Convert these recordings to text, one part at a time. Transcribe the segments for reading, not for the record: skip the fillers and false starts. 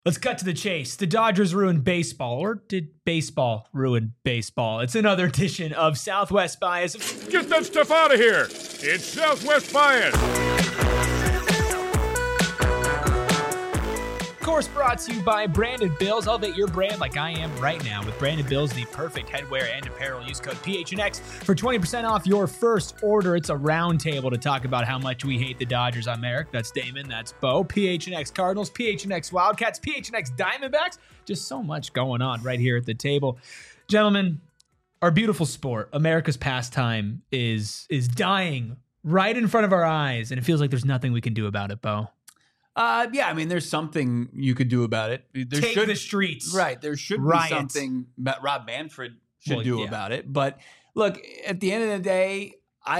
Let's cut to the chase. The Dodgers ruined baseball, or did baseball ruin baseball? It's another edition of Southwest Bias. Get that stuff out of here. It's Southwest Bias. Of course, brought to you by Branded Bills. Elevate your brand like I am right now with Branded Bills, the perfect headwear and apparel. Use code PHNX for 20% off your first order. It's a round table to talk about how much we hate the Dodgers. I'm Eric. That's Damon. That's Bo. PHNX Cardinals, PHNX Wildcats, PHNX Diamondbacks. Just so much going on right here at the table. Gentlemen, our beautiful sport, America's pastime, is dying right in front of our eyes, and it feels like there's nothing we can do about it, Bo. Yeah, I mean, there's something you could do about it. Take the streets. Right. There should Riot. be something that Rob Manfred should do about it. But look, at the end of the day,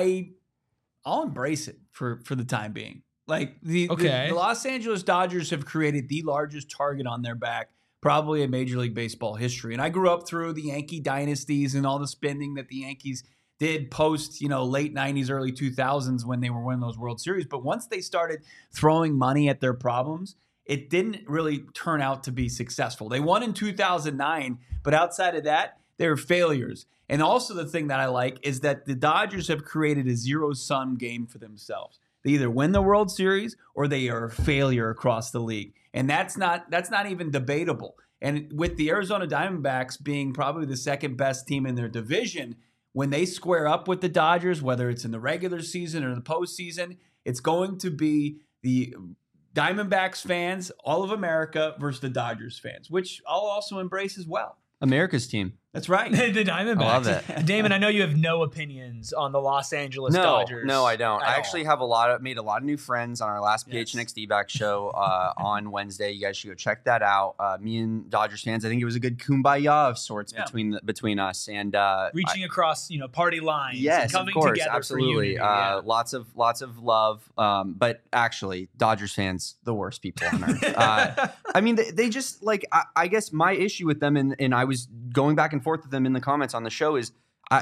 I'll embrace it for the time being. Like the Los Angeles Dodgers have created the largest target on their back probably in Major League Baseball history. And I grew up through the Yankee dynasties and all the spending that the Yankees did post, late 90s, early 2000s when they were winning those World Series. But once they started throwing money at their problems, it didn't really turn out to be successful. They won in 2009, but outside of that, they were failures. And also the thing that I like is that the Dodgers have created a zero-sum game for themselves. They either win the World Series or they are a failure across the league. And that's not even debatable. And with the Arizona Diamondbacks being probably the second best team in their division, when they square up with the Dodgers, whether it's in the regular season or the postseason, it's going to be the Diamondbacks fans, all of America, versus the Dodgers fans, which I'll also embrace as well. America's team. That's right. The Diamondbacks. I love that. Damon, I know you have no opinions on the Los Angeles Dodgers. No, I don't. I actually have made a lot of new friends on our last Yes. PHNX D-Back show on Wednesday. You guys should go check that out. Me and Dodgers fans, I think it was a good kumbaya of sorts between us and reaching across, party lines. Yes, and coming of course, together absolutely. For unity, yeah. Lots of love. But actually, Dodgers fans, the worst people on earth. I mean, they just I guess my issue with them, and I was going back and forth with them in the comments on the show is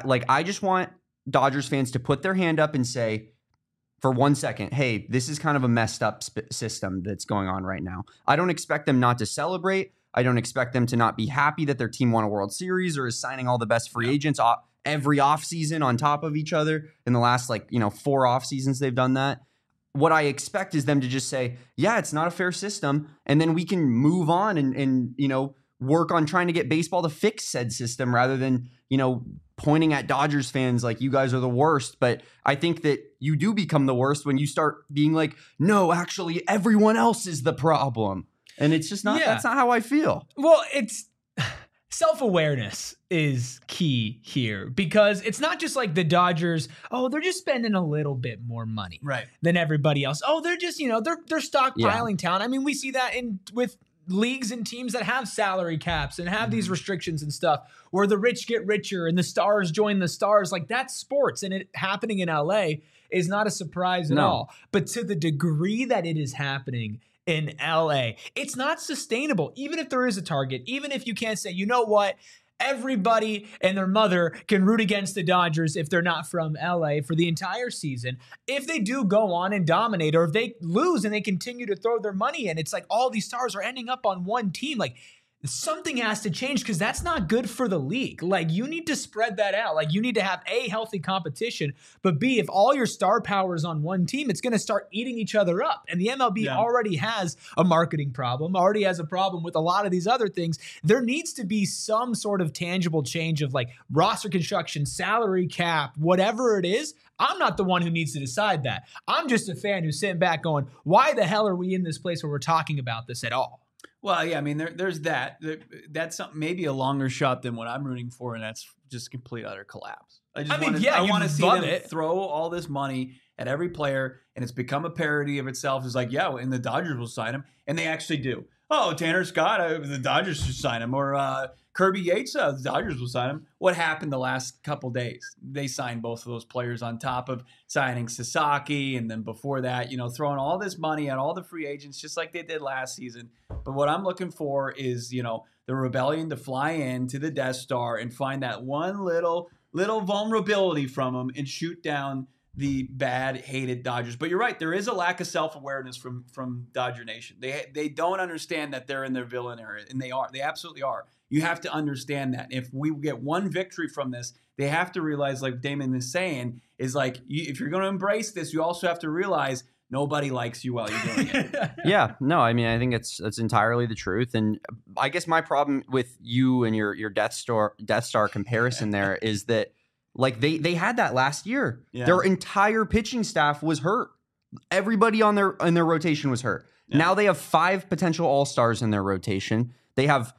I just want Dodgers fans to put their hand up and say for 1 second, hey, this is kind of a messed up system that's going on right now. I don't expect them not to celebrate. I don't expect them to not be happy that their team won a World Series or is signing all the best free agents every offseason on top of each other. In the last 4 off seasons they've done that. What I expect is them to just say, yeah, it's not a fair system, and then we can move on and work on trying to get baseball to fix said system rather than, pointing at Dodgers fans like you guys are the worst. But I think that you do become the worst when you start being like, no, actually everyone else is the problem. And it's just not, that's not how I feel. Well, it's self-awareness is key here because it's not just like the Dodgers, they're just spending a little bit more money than everybody else. They're just, they're stockpiling talent. I mean, we see that with leagues and teams that have salary caps and have these restrictions and stuff where the rich get richer and the stars join the stars. Like, that's sports, and it happening in LA is not a surprise at all. But to the degree that it is happening in LA, it's not sustainable. Even if there is a target, even if you can't say, you know what, everybody and their mother can root against the Dodgers if they're not from LA for the entire season. If they do go on and dominate, or if they lose and they continue to throw their money in, it's like all these stars are ending up on one team. Like, something has to change because that's not good for the league. Like, you need to spread that out. Like, you need to have A, healthy competition, but B, if all your star power is on one team, it's going to start eating each other up. And the MLB already has a marketing problem, already has a problem with a lot of these other things. There needs to be some sort of tangible change of roster construction, salary cap, whatever it is. I'm not the one who needs to decide that. I'm just a fan who's sitting back going, why the hell are we in this place where we're talking about this at all? Well, yeah, I mean, there's that. That's something, maybe a longer shot than what I'm rooting for, and that's just complete utter collapse. I want to see them throw all this money at every player, and it's become a parody of itself. It's like, and the Dodgers will sign him, and they actually do. Oh, Tanner Scott, the Dodgers should sign him, or Kirby Yates, the Dodgers will sign him. What happened the last couple days? They signed both of those players on top of signing Sasaki, and then before that, throwing all this money at all the free agents, just like they did last season. But what I'm looking for is, the rebellion to fly into the Death Star and find that one little vulnerability from them and shoot down the bad, hated Dodgers. But you're right. There is a lack of self-awareness from Dodger Nation. They don't understand that they're in their villain area, and they are. They absolutely are. You have to understand that. If we get one victory from this, they have to realize, like Damon is saying, is like, if you're going to embrace this, you also have to realize nobody likes you while you're doing it. Yeah, no, I mean, I think it's entirely the truth. And I guess my problem with you and your Death Star comparison there is that, like, they had that last year. Yeah. Their entire pitching staff was hurt. Everybody in their rotation was hurt. Yeah. Now they have 5 potential all-stars in their rotation. They have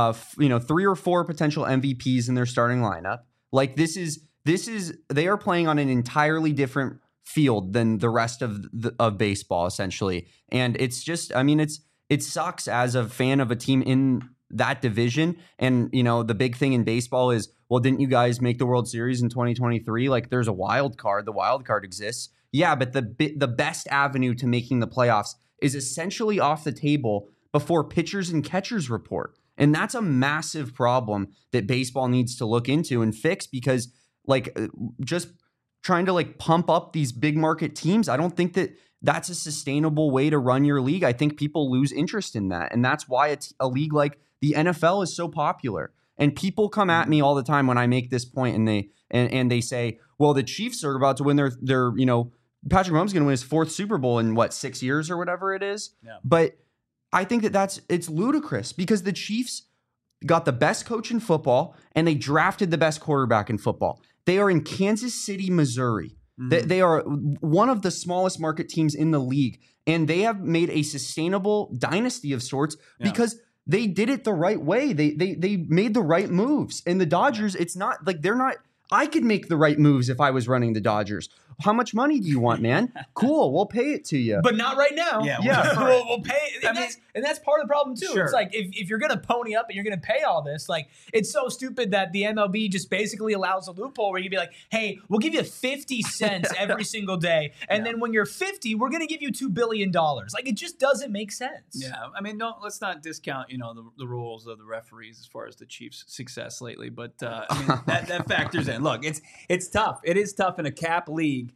3 or 4 potential MVPs in their starting lineup. Like, this is they are playing on an entirely different field than the rest of baseball, essentially. And it's just, I mean, it sucks as a fan of a team in that division. And, the big thing in baseball is, well, didn't you guys make the World Series in 2023? Like, there's a wild card. The wild card exists. Yeah, but the best avenue to making the playoffs is essentially off the table before pitchers and catchers report. And that's a massive problem that baseball needs to look into and fix, because, like, just trying to, like, pump up these big market teams, I don't think that that's a sustainable way to run your league. I think people lose interest in that. And that's why a league like the NFL is so popular. And people come at me all the time when I make this point, and they say, well, the Chiefs are about to win their Patrick Mahomes is going to win his 4th Super Bowl in 6 years or whatever it is. Yeah. But I think it's ludicrous, because the Chiefs got the best coach in football and they drafted the best quarterback in football. They are in Kansas City, Missouri. Mm-hmm. They are one of the smallest market teams in the league, and they have made a sustainable dynasty of sorts because they did it the right way. They made the right moves. And the Dodgers, it's not like they're not. I could make the right moves if I was running the Dodgers. How much money do you want, man? Cool, we'll pay it to you. But not right now. Yeah. We'll pay it. And that's part of the problem, too. Sure. It's like, if you're going to pony up and you're going to pay all this, like, it's so stupid that the MLB just basically allows a loophole where you'd be like, hey, we'll give you 50 cents every single day. And then when you're 50, we're going to give you $2 billion. Like, it just doesn't make sense. Yeah. I mean, let's not discount, the rules of the referees as far as the Chiefs' success lately. But, I mean, that factors in. Look, it's tough. It is tough in a cap league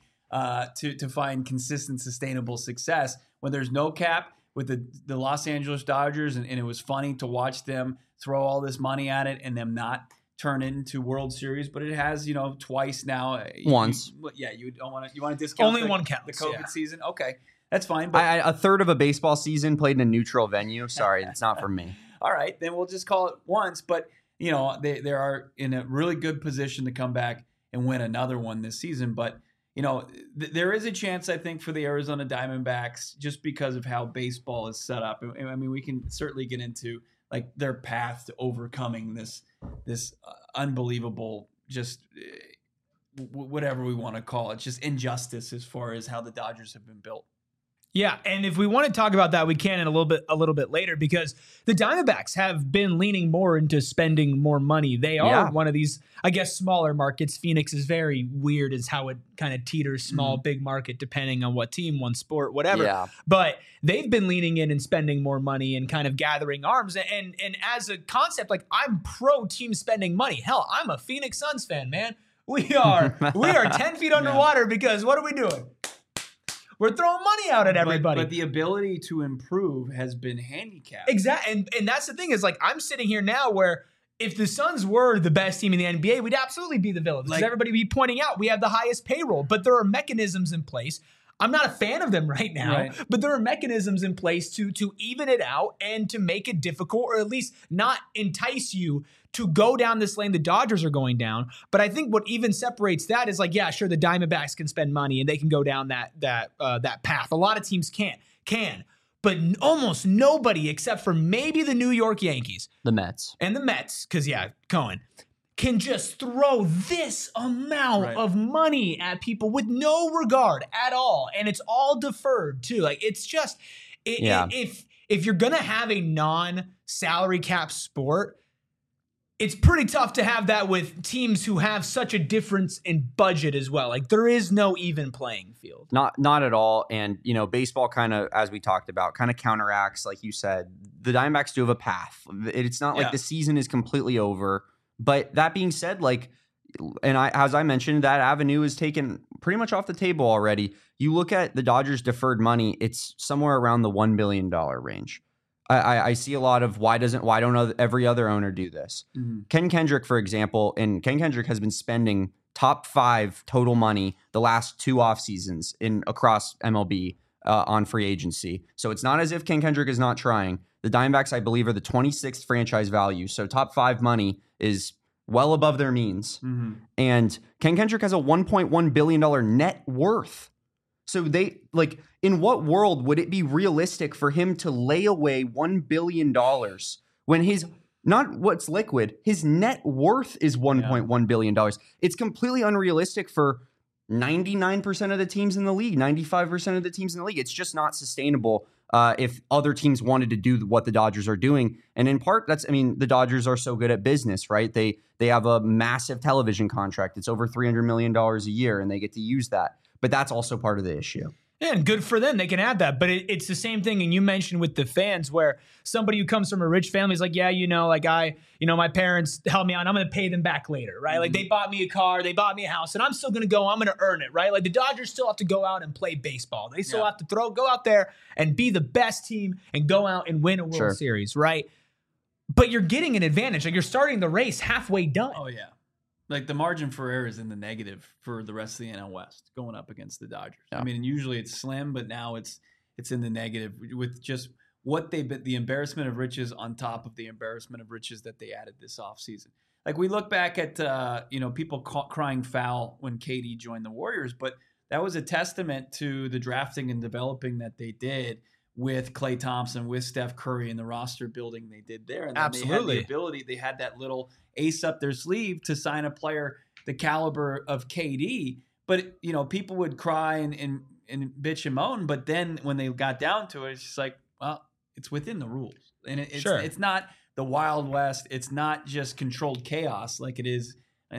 to find consistent, sustainable success when there's no cap with the Los Angeles Dodgers, and it was funny to watch them throw all this money at it and them not turn it into World Series, but it has, twice now. Once. You don't want to discount only one counts. The COVID season. Okay, that's fine. But a third of a baseball season played in a neutral venue. Sorry, it's not for me. All right, then we'll just call it once. But they are in a really good position to come back and win another one this season. But there is a chance, I think, for the Arizona Diamondbacks, just because of how baseball is set up. I mean, we can certainly get into, like, their path to overcoming this unbelievable, just whatever we want to call it, just injustice as far as how the Dodgers have been built. Yeah, and if we want to talk about that, we can in a little bit later, because the Diamondbacks have been leaning more into spending more money. They are one of these, I guess, smaller markets. Phoenix is very weird as how it kind of teeters small, big market, depending on what team, one sport, whatever. Yeah. But they've been leaning in and spending more money and kind of gathering arms. And as a concept, like, I'm pro team spending money. Hell, I'm a Phoenix Suns fan, man. We are 10 feet underwater because what are we doing? We're throwing money out at everybody. But the ability to improve has been handicapped. Exactly. And that's the thing, is, like, I'm sitting here now where if the Suns were the best team in the NBA, we'd absolutely be the villains. Because everybody would be pointing out we have the highest payroll. But there are mechanisms in place. I'm not a fan of them right now, but there are mechanisms in place to even it out and to make it difficult, or at least not entice you to go down this lane the Dodgers are going down. But I think what even separates that is, like, yeah, sure, the Diamondbacks can spend money and they can go down that path. A lot of teams can, but almost nobody except for maybe the New York Yankees, the Mets, because Cohen can just throw this amount of money at people with no regard at all, and it's all deferred too. Like, it's just if you're gonna have a non-salary cap sport, it's pretty tough to have that with teams who have such a difference in budget as well. Like, there is no even playing field. Not at all. And, baseball kind of, as we talked about, kind of counteracts, like you said. The Diamondbacks do have a path. It's not like the season is completely over. But that being said, like, as I mentioned, that avenue is taken pretty much off the table already. You look at the Dodgers' deferred money; it's somewhere around the $1 billion range. I see a lot of why don't every other owner do this? Mm-hmm. Ken Kendrick, for example, and Ken Kendrick has been spending top 5 total money the last 2 off seasons across MLB on free agency. So it's not as if Ken Kendrick is not trying. The Diamondbacks, I believe, are the 26th franchise value. So top 5 money is well above their means. Mm-hmm. And Ken Kendrick has a $1.1 billion net worth. So in what world would it be realistic for him to lay away $1 billion when not what's liquid, his net worth is $1.1 billion. It's completely unrealistic for 99% of the teams in the league, 95% of the teams in the league. It's just not sustainable if other teams wanted to do what the Dodgers are doing. And in part, the Dodgers are so good at business, right? They have a massive television contract. It's over $300 million a year, and they get to use that. But that's also part of the issue. Yeah, and good for them. They can add that. But it's the same thing. And you mentioned with the fans where somebody who comes from a rich family is like, yeah, my parents helped me out. I'm going to pay them back later, right? Mm-hmm. Like they bought me a car, they bought me a house, and I'm still going to I'm going to earn it, right? Like the Dodgers still have to go out and play baseball. They still have to go out there and be the best team and go out and win a World Series, right? But you're getting an advantage. Like you're starting the race halfway done. Oh, yeah. Like the margin for error is in the negative for the rest of the NL West going up against the Dodgers. Yeah. I mean, usually it's slim, but now it's in the negative with just what the embarrassment of riches on top of the embarrassment of riches that they added this offseason. Like we look back at people crying foul when KD joined the Warriors, but that was a testament to the drafting and developing that they did with Klay Thompson, with Steph Curry, and the roster building they did there. And then Absolutely. they had that little ace up their sleeve to sign a player the caliber of KD. But, people would cry and bitch and moan. But then when they got down to it, it's just like, well, it's within the rules. And it's not the Wild West. It's not just controlled chaos like it is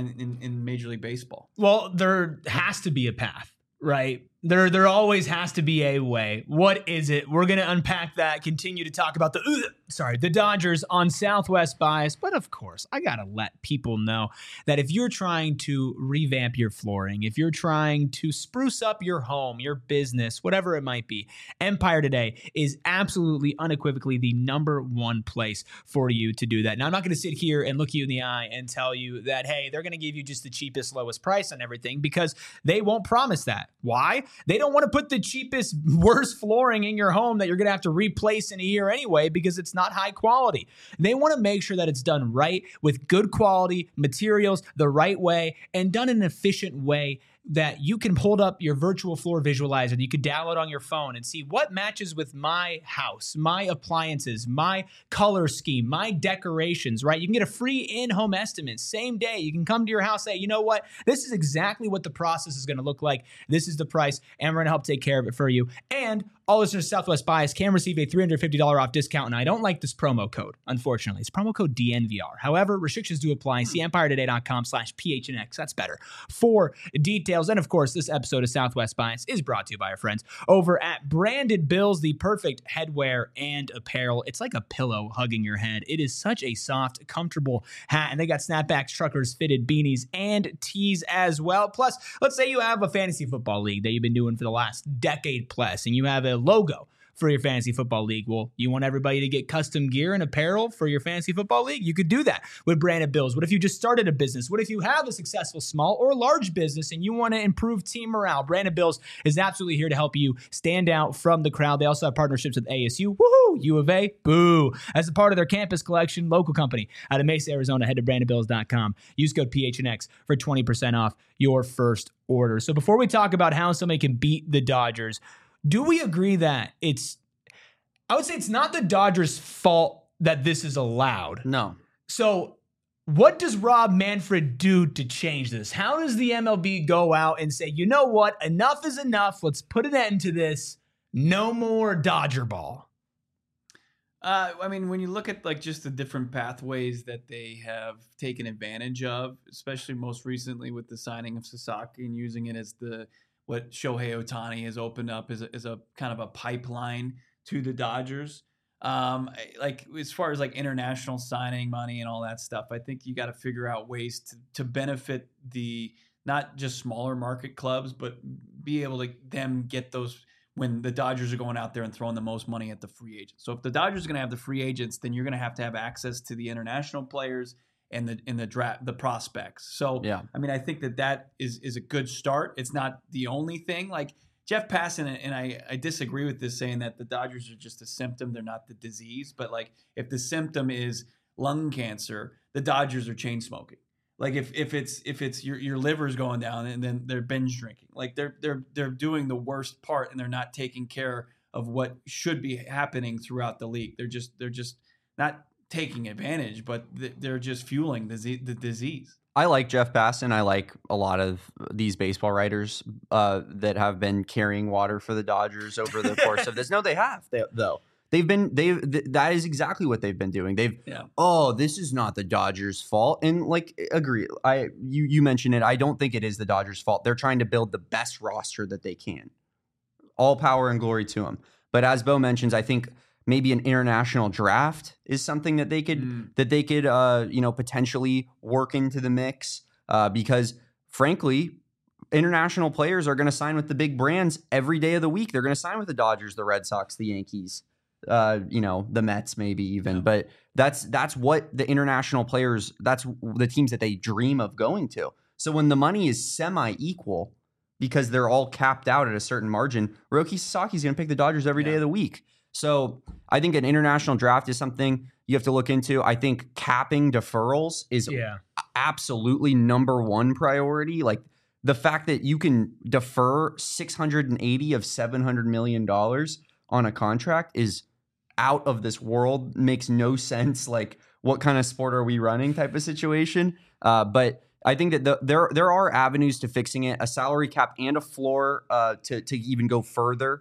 in Major League Baseball. Well, there has to be a path, right? There always has to be a way. What is it? We're going to unpack that, continue to talk about the Dodgers on Southwest Bias. But of course, I got to let people know that if you're trying to revamp your flooring, if you're trying to spruce up your home, your business, whatever it might be, Empire Today is absolutely unequivocally the number one place for you to do that. Now, I'm not going to sit here and look you in the eye and tell you that, hey, they're going to give you just the cheapest, lowest price on everything, because they won't promise that. Why? They don't want to put the cheapest, worst flooring in your home that you're going to have to replace in a year anyway because it's not high quality. They want to make sure that it's done right with good quality materials, the right way, and done in an efficient way that you can hold up your virtual floor visualizer that you could download on your phone and see what matches with my house, my appliances, my color scheme, my decorations, right? You can get a free in-home estimate same day. You can come to your house, say, you know what? This is exactly what the process is going to look like. This is the price, and we're going to help take care of it for you. And all listeners to Southwest Bias can receive a $350 off discount, and I don't like this promo code, unfortunately. It's promo code DNVR. However, restrictions do apply. See EmpireToday.com/PHNX. That's better for details. And of course, this episode of Southwest Bias is brought to you by our friends over at Branded Bills, the perfect headwear and apparel. It's like a pillow hugging your head. It is such a soft, comfortable hat, and they got snapbacks, truckers, fitted beanies, and tees as well. Plus, let's say you have a fantasy football league that you've been doing for the last decade plus, and you have a logo for your fantasy football league. Well, you want everybody to get custom gear and apparel for your fantasy football league? You could do that with Branded Bills. What if you just started a business? What if you have a successful small or large business and you want to improve team morale? Branded Bills is absolutely here to help you stand out from the crowd. They also have partnerships with ASU, woohoo, U of A, boo. As a part of their campus collection, local company out of Mesa, Arizona, head to brandedbills.com. Use code PHNX for 20% off your first order. So before we talk about how somebody can beat the Dodgers, do we agree that I would say it's not the Dodgers' fault that this is allowed? No. So what does Rob Manfred do to change this? How does the MLB go out and say, you know what, enough is enough, let's put an end to this, no more Dodger ball? When you look at just the different pathways that they have taken advantage of, especially most recently with the signing of Sasaki and using it as what Shohei Ohtani has opened up as a kind of a pipeline to the Dodgers. Like as far as like international signing money and all that stuff, I think you got to figure out ways to benefit the not just smaller market clubs, but be able to them get those when the Dodgers are going out there and throwing the most money at the free agents. So if the Dodgers are going to have the free agents, then you're going to have access to the international players and the draft, the prospects. So yeah, I mean, I think that is a good start. It's not the only thing. Like Jeff Passan, and I disagree with this, saying that the Dodgers are just a symptom, they're not the disease. But like if the symptom is lung cancer, the Dodgers are chain smoking. Like if it's your liver's going down and then they're binge drinking, like they're doing the worst part and they're not taking care of what should be happening throughout the league. They're just not taking advantage, but they're just fueling the disease. I like Jeff Passan. I like a lot of these baseball writers that have been carrying water for the Dodgers over the course of this. No, they have though. That is exactly what they've been doing. This is not the Dodgers' fault. And like, agree. You mentioned it. I don't think it is the Dodgers' fault. They're trying to build the best roster that they can. All power and glory to them. But as Bo mentions, I think maybe an international draft is something that they could potentially work into the mix because frankly, international players are going to sign with the big brands every day of the week. They're going to sign with the Dodgers, the Red Sox, the Yankees, the Mets maybe even. Yeah. But that's what the international players, that's the teams that they dream of going to. So when the money is semi-equal because they're all capped out at a certain margin, Roki Sasaki's going to pick the Dodgers every day of the week. So I think an international draft is something you have to look into. I think capping deferrals is absolutely number one priority. Like the fact that you can defer $680 of $700 million on a contract is out of this world. Makes no sense. Like what kind of sport are we running type of situation? But I think that there are avenues to fixing it, a salary cap and a floor to even go further.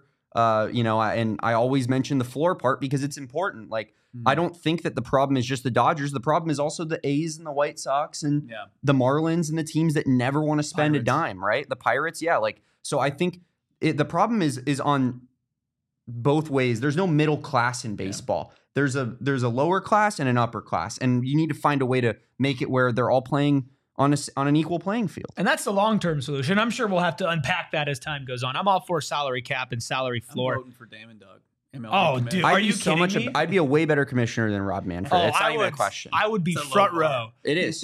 And I always mention the floor part because it's important. Like, I don't think that the problem is just the Dodgers. The problem is also the A's and the White Sox and the Marlins and the teams that never want to spend a dime, right? The Pirates, so I think the problem is on both ways. There's no middle class in baseball. There's a lower class and an upper class, and you need to find a way to make it where they're all playing on an equal playing field. And that's the long-term solution. I'm sure we'll have to unpack that as time goes on. I'm all for salary cap and salary floor. I'm voting for Damon Doug. Dude, are you kidding me? I'd be a way better commissioner than Rob Manfred. It's not even a question. I would be front row. It is.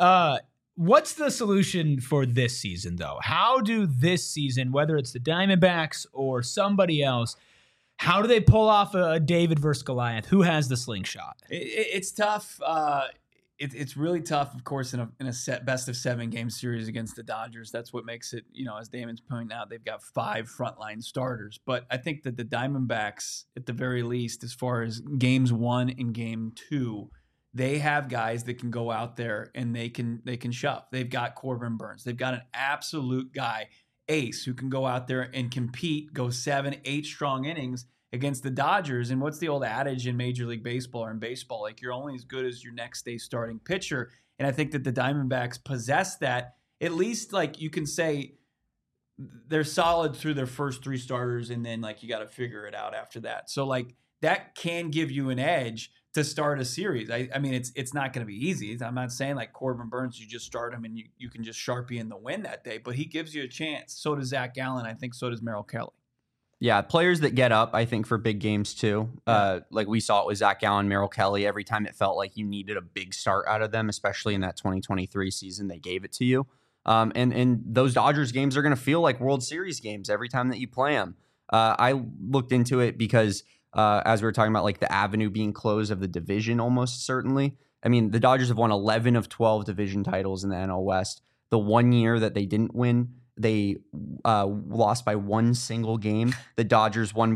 What's the solution for this season, though? How do this season, whether it's the Diamondbacks or somebody else, how do they pull off a David versus Goliath? Who has the slingshot? It's tough. It's really tough, of course, in a best of 7 game series against the Dodgers. That's what makes it, as Damon's pointing out, they've got 5 frontline starters. But I think that the Diamondbacks, at the very least, as far as games 1 and game 2, they have guys that can go out there and they can shove. They've got Corbin Burnes. They've got an absolute guy, ace, who can go out there and compete, go 7, 8 strong innings against the Dodgers. And what's the old adage in Major League Baseball or in baseball? Like, you're only as good as your next day starting pitcher. And I think that the Diamondbacks possess that. At least, like, you can say they're solid through their first 3 starters, and then, like, you got to figure it out after that. So, like, that can give you an edge to start a series. I mean, it's not going to be easy. I'm not saying, like, Corbin Burnes, you just start him and you can just Sharpie in the win that day. But he gives you a chance. So does Zach Gallen. I think so does Merrill Kelly. Yeah, players that get up, I think, for big games too. Like we saw it with Zach Gallen, Merrill Kelly. Every time it felt like you needed a big start out of them, especially in that 2023 season, they gave it to you. And those Dodgers games are going to feel like World Series games every time that you play them. I looked into it because as we were talking about, like the avenue being closed of the division, almost certainly. I mean, the Dodgers have won 11 of 12 division titles in the NL West. The one year that they didn't win, they lost by 1 single game. The Dodgers won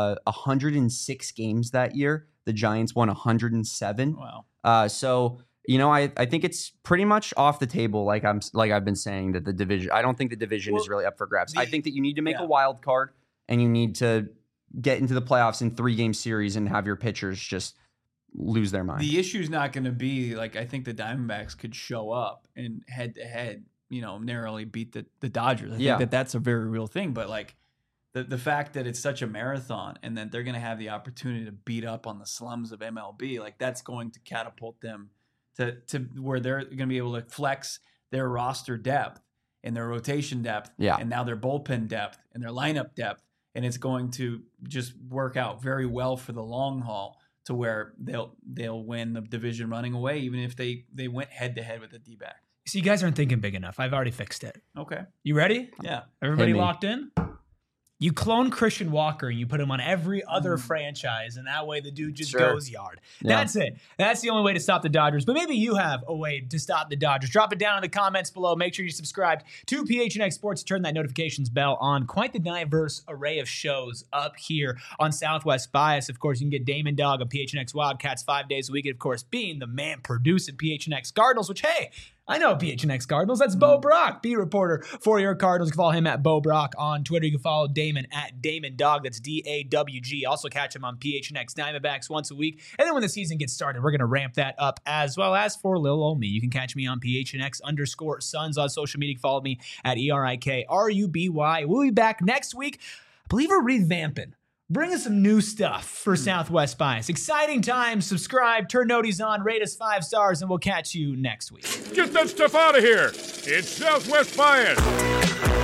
106 games that year. The Giants won 107. Wow. So, I think it's pretty much off the table. Like I've been saying, that the division, I don't think the division is really up for grabs. I think that you need to make a wild card and you need to get into the playoffs in 3-game series and have your pitchers just lose their mind. The issue is not going to be, like, I think the Diamondbacks could show up and head to head, narrowly beat the Dodgers. I think that's a very real thing. But, like, the fact that it's such a marathon and that they're going to have the opportunity to beat up on the slums of MLB, like that's going to catapult them to where they're going to be able to flex their roster depth and their rotation depth, and now their bullpen depth and their lineup depth, and it's going to just work out very well for the long haul to where they'll win the division running away, even if they went head to head with the D-back. So you guys aren't thinking big enough. I've already fixed it. Okay. You ready? Yeah. Everybody locked in? You clone Christian Walker and you put him on every other franchise, and that way the dude just goes yard. Yeah. That's it. That's the only way to stop the Dodgers. But maybe you have a way to stop the Dodgers. Drop it down in the comments below. Make sure you subscribe to PHNX Sports. Turn that notifications bell on. Quite the diverse array of shows up here on Southwest Bias. Of course, you can get Damon Dog on PHNX Wildcats 5 days a week. And of course, being the man producing PHNX Cardinals, which, hey, I know PHNX Cardinals. That's Bo Brock, beat reporter for your Cardinals. You can follow him at Bo Brock on Twitter. You can follow Damon at Damon Dog. That's DAWG. Also catch him on PHNX Diamondbacks once a week. And then when the season gets started, we're going to ramp that up as well. As for Lil Ol' Me, you can catch me on PHNX_Suns on social media. Follow me at ERIKRUBY. We'll be back next week. I believe we're revamping. Bring us some new stuff for Southwest Bias. Exciting times. Subscribe, turn noties on, rate us 5 stars, and we'll catch you next week. Get that stuff out of here. It's Southwest Bias.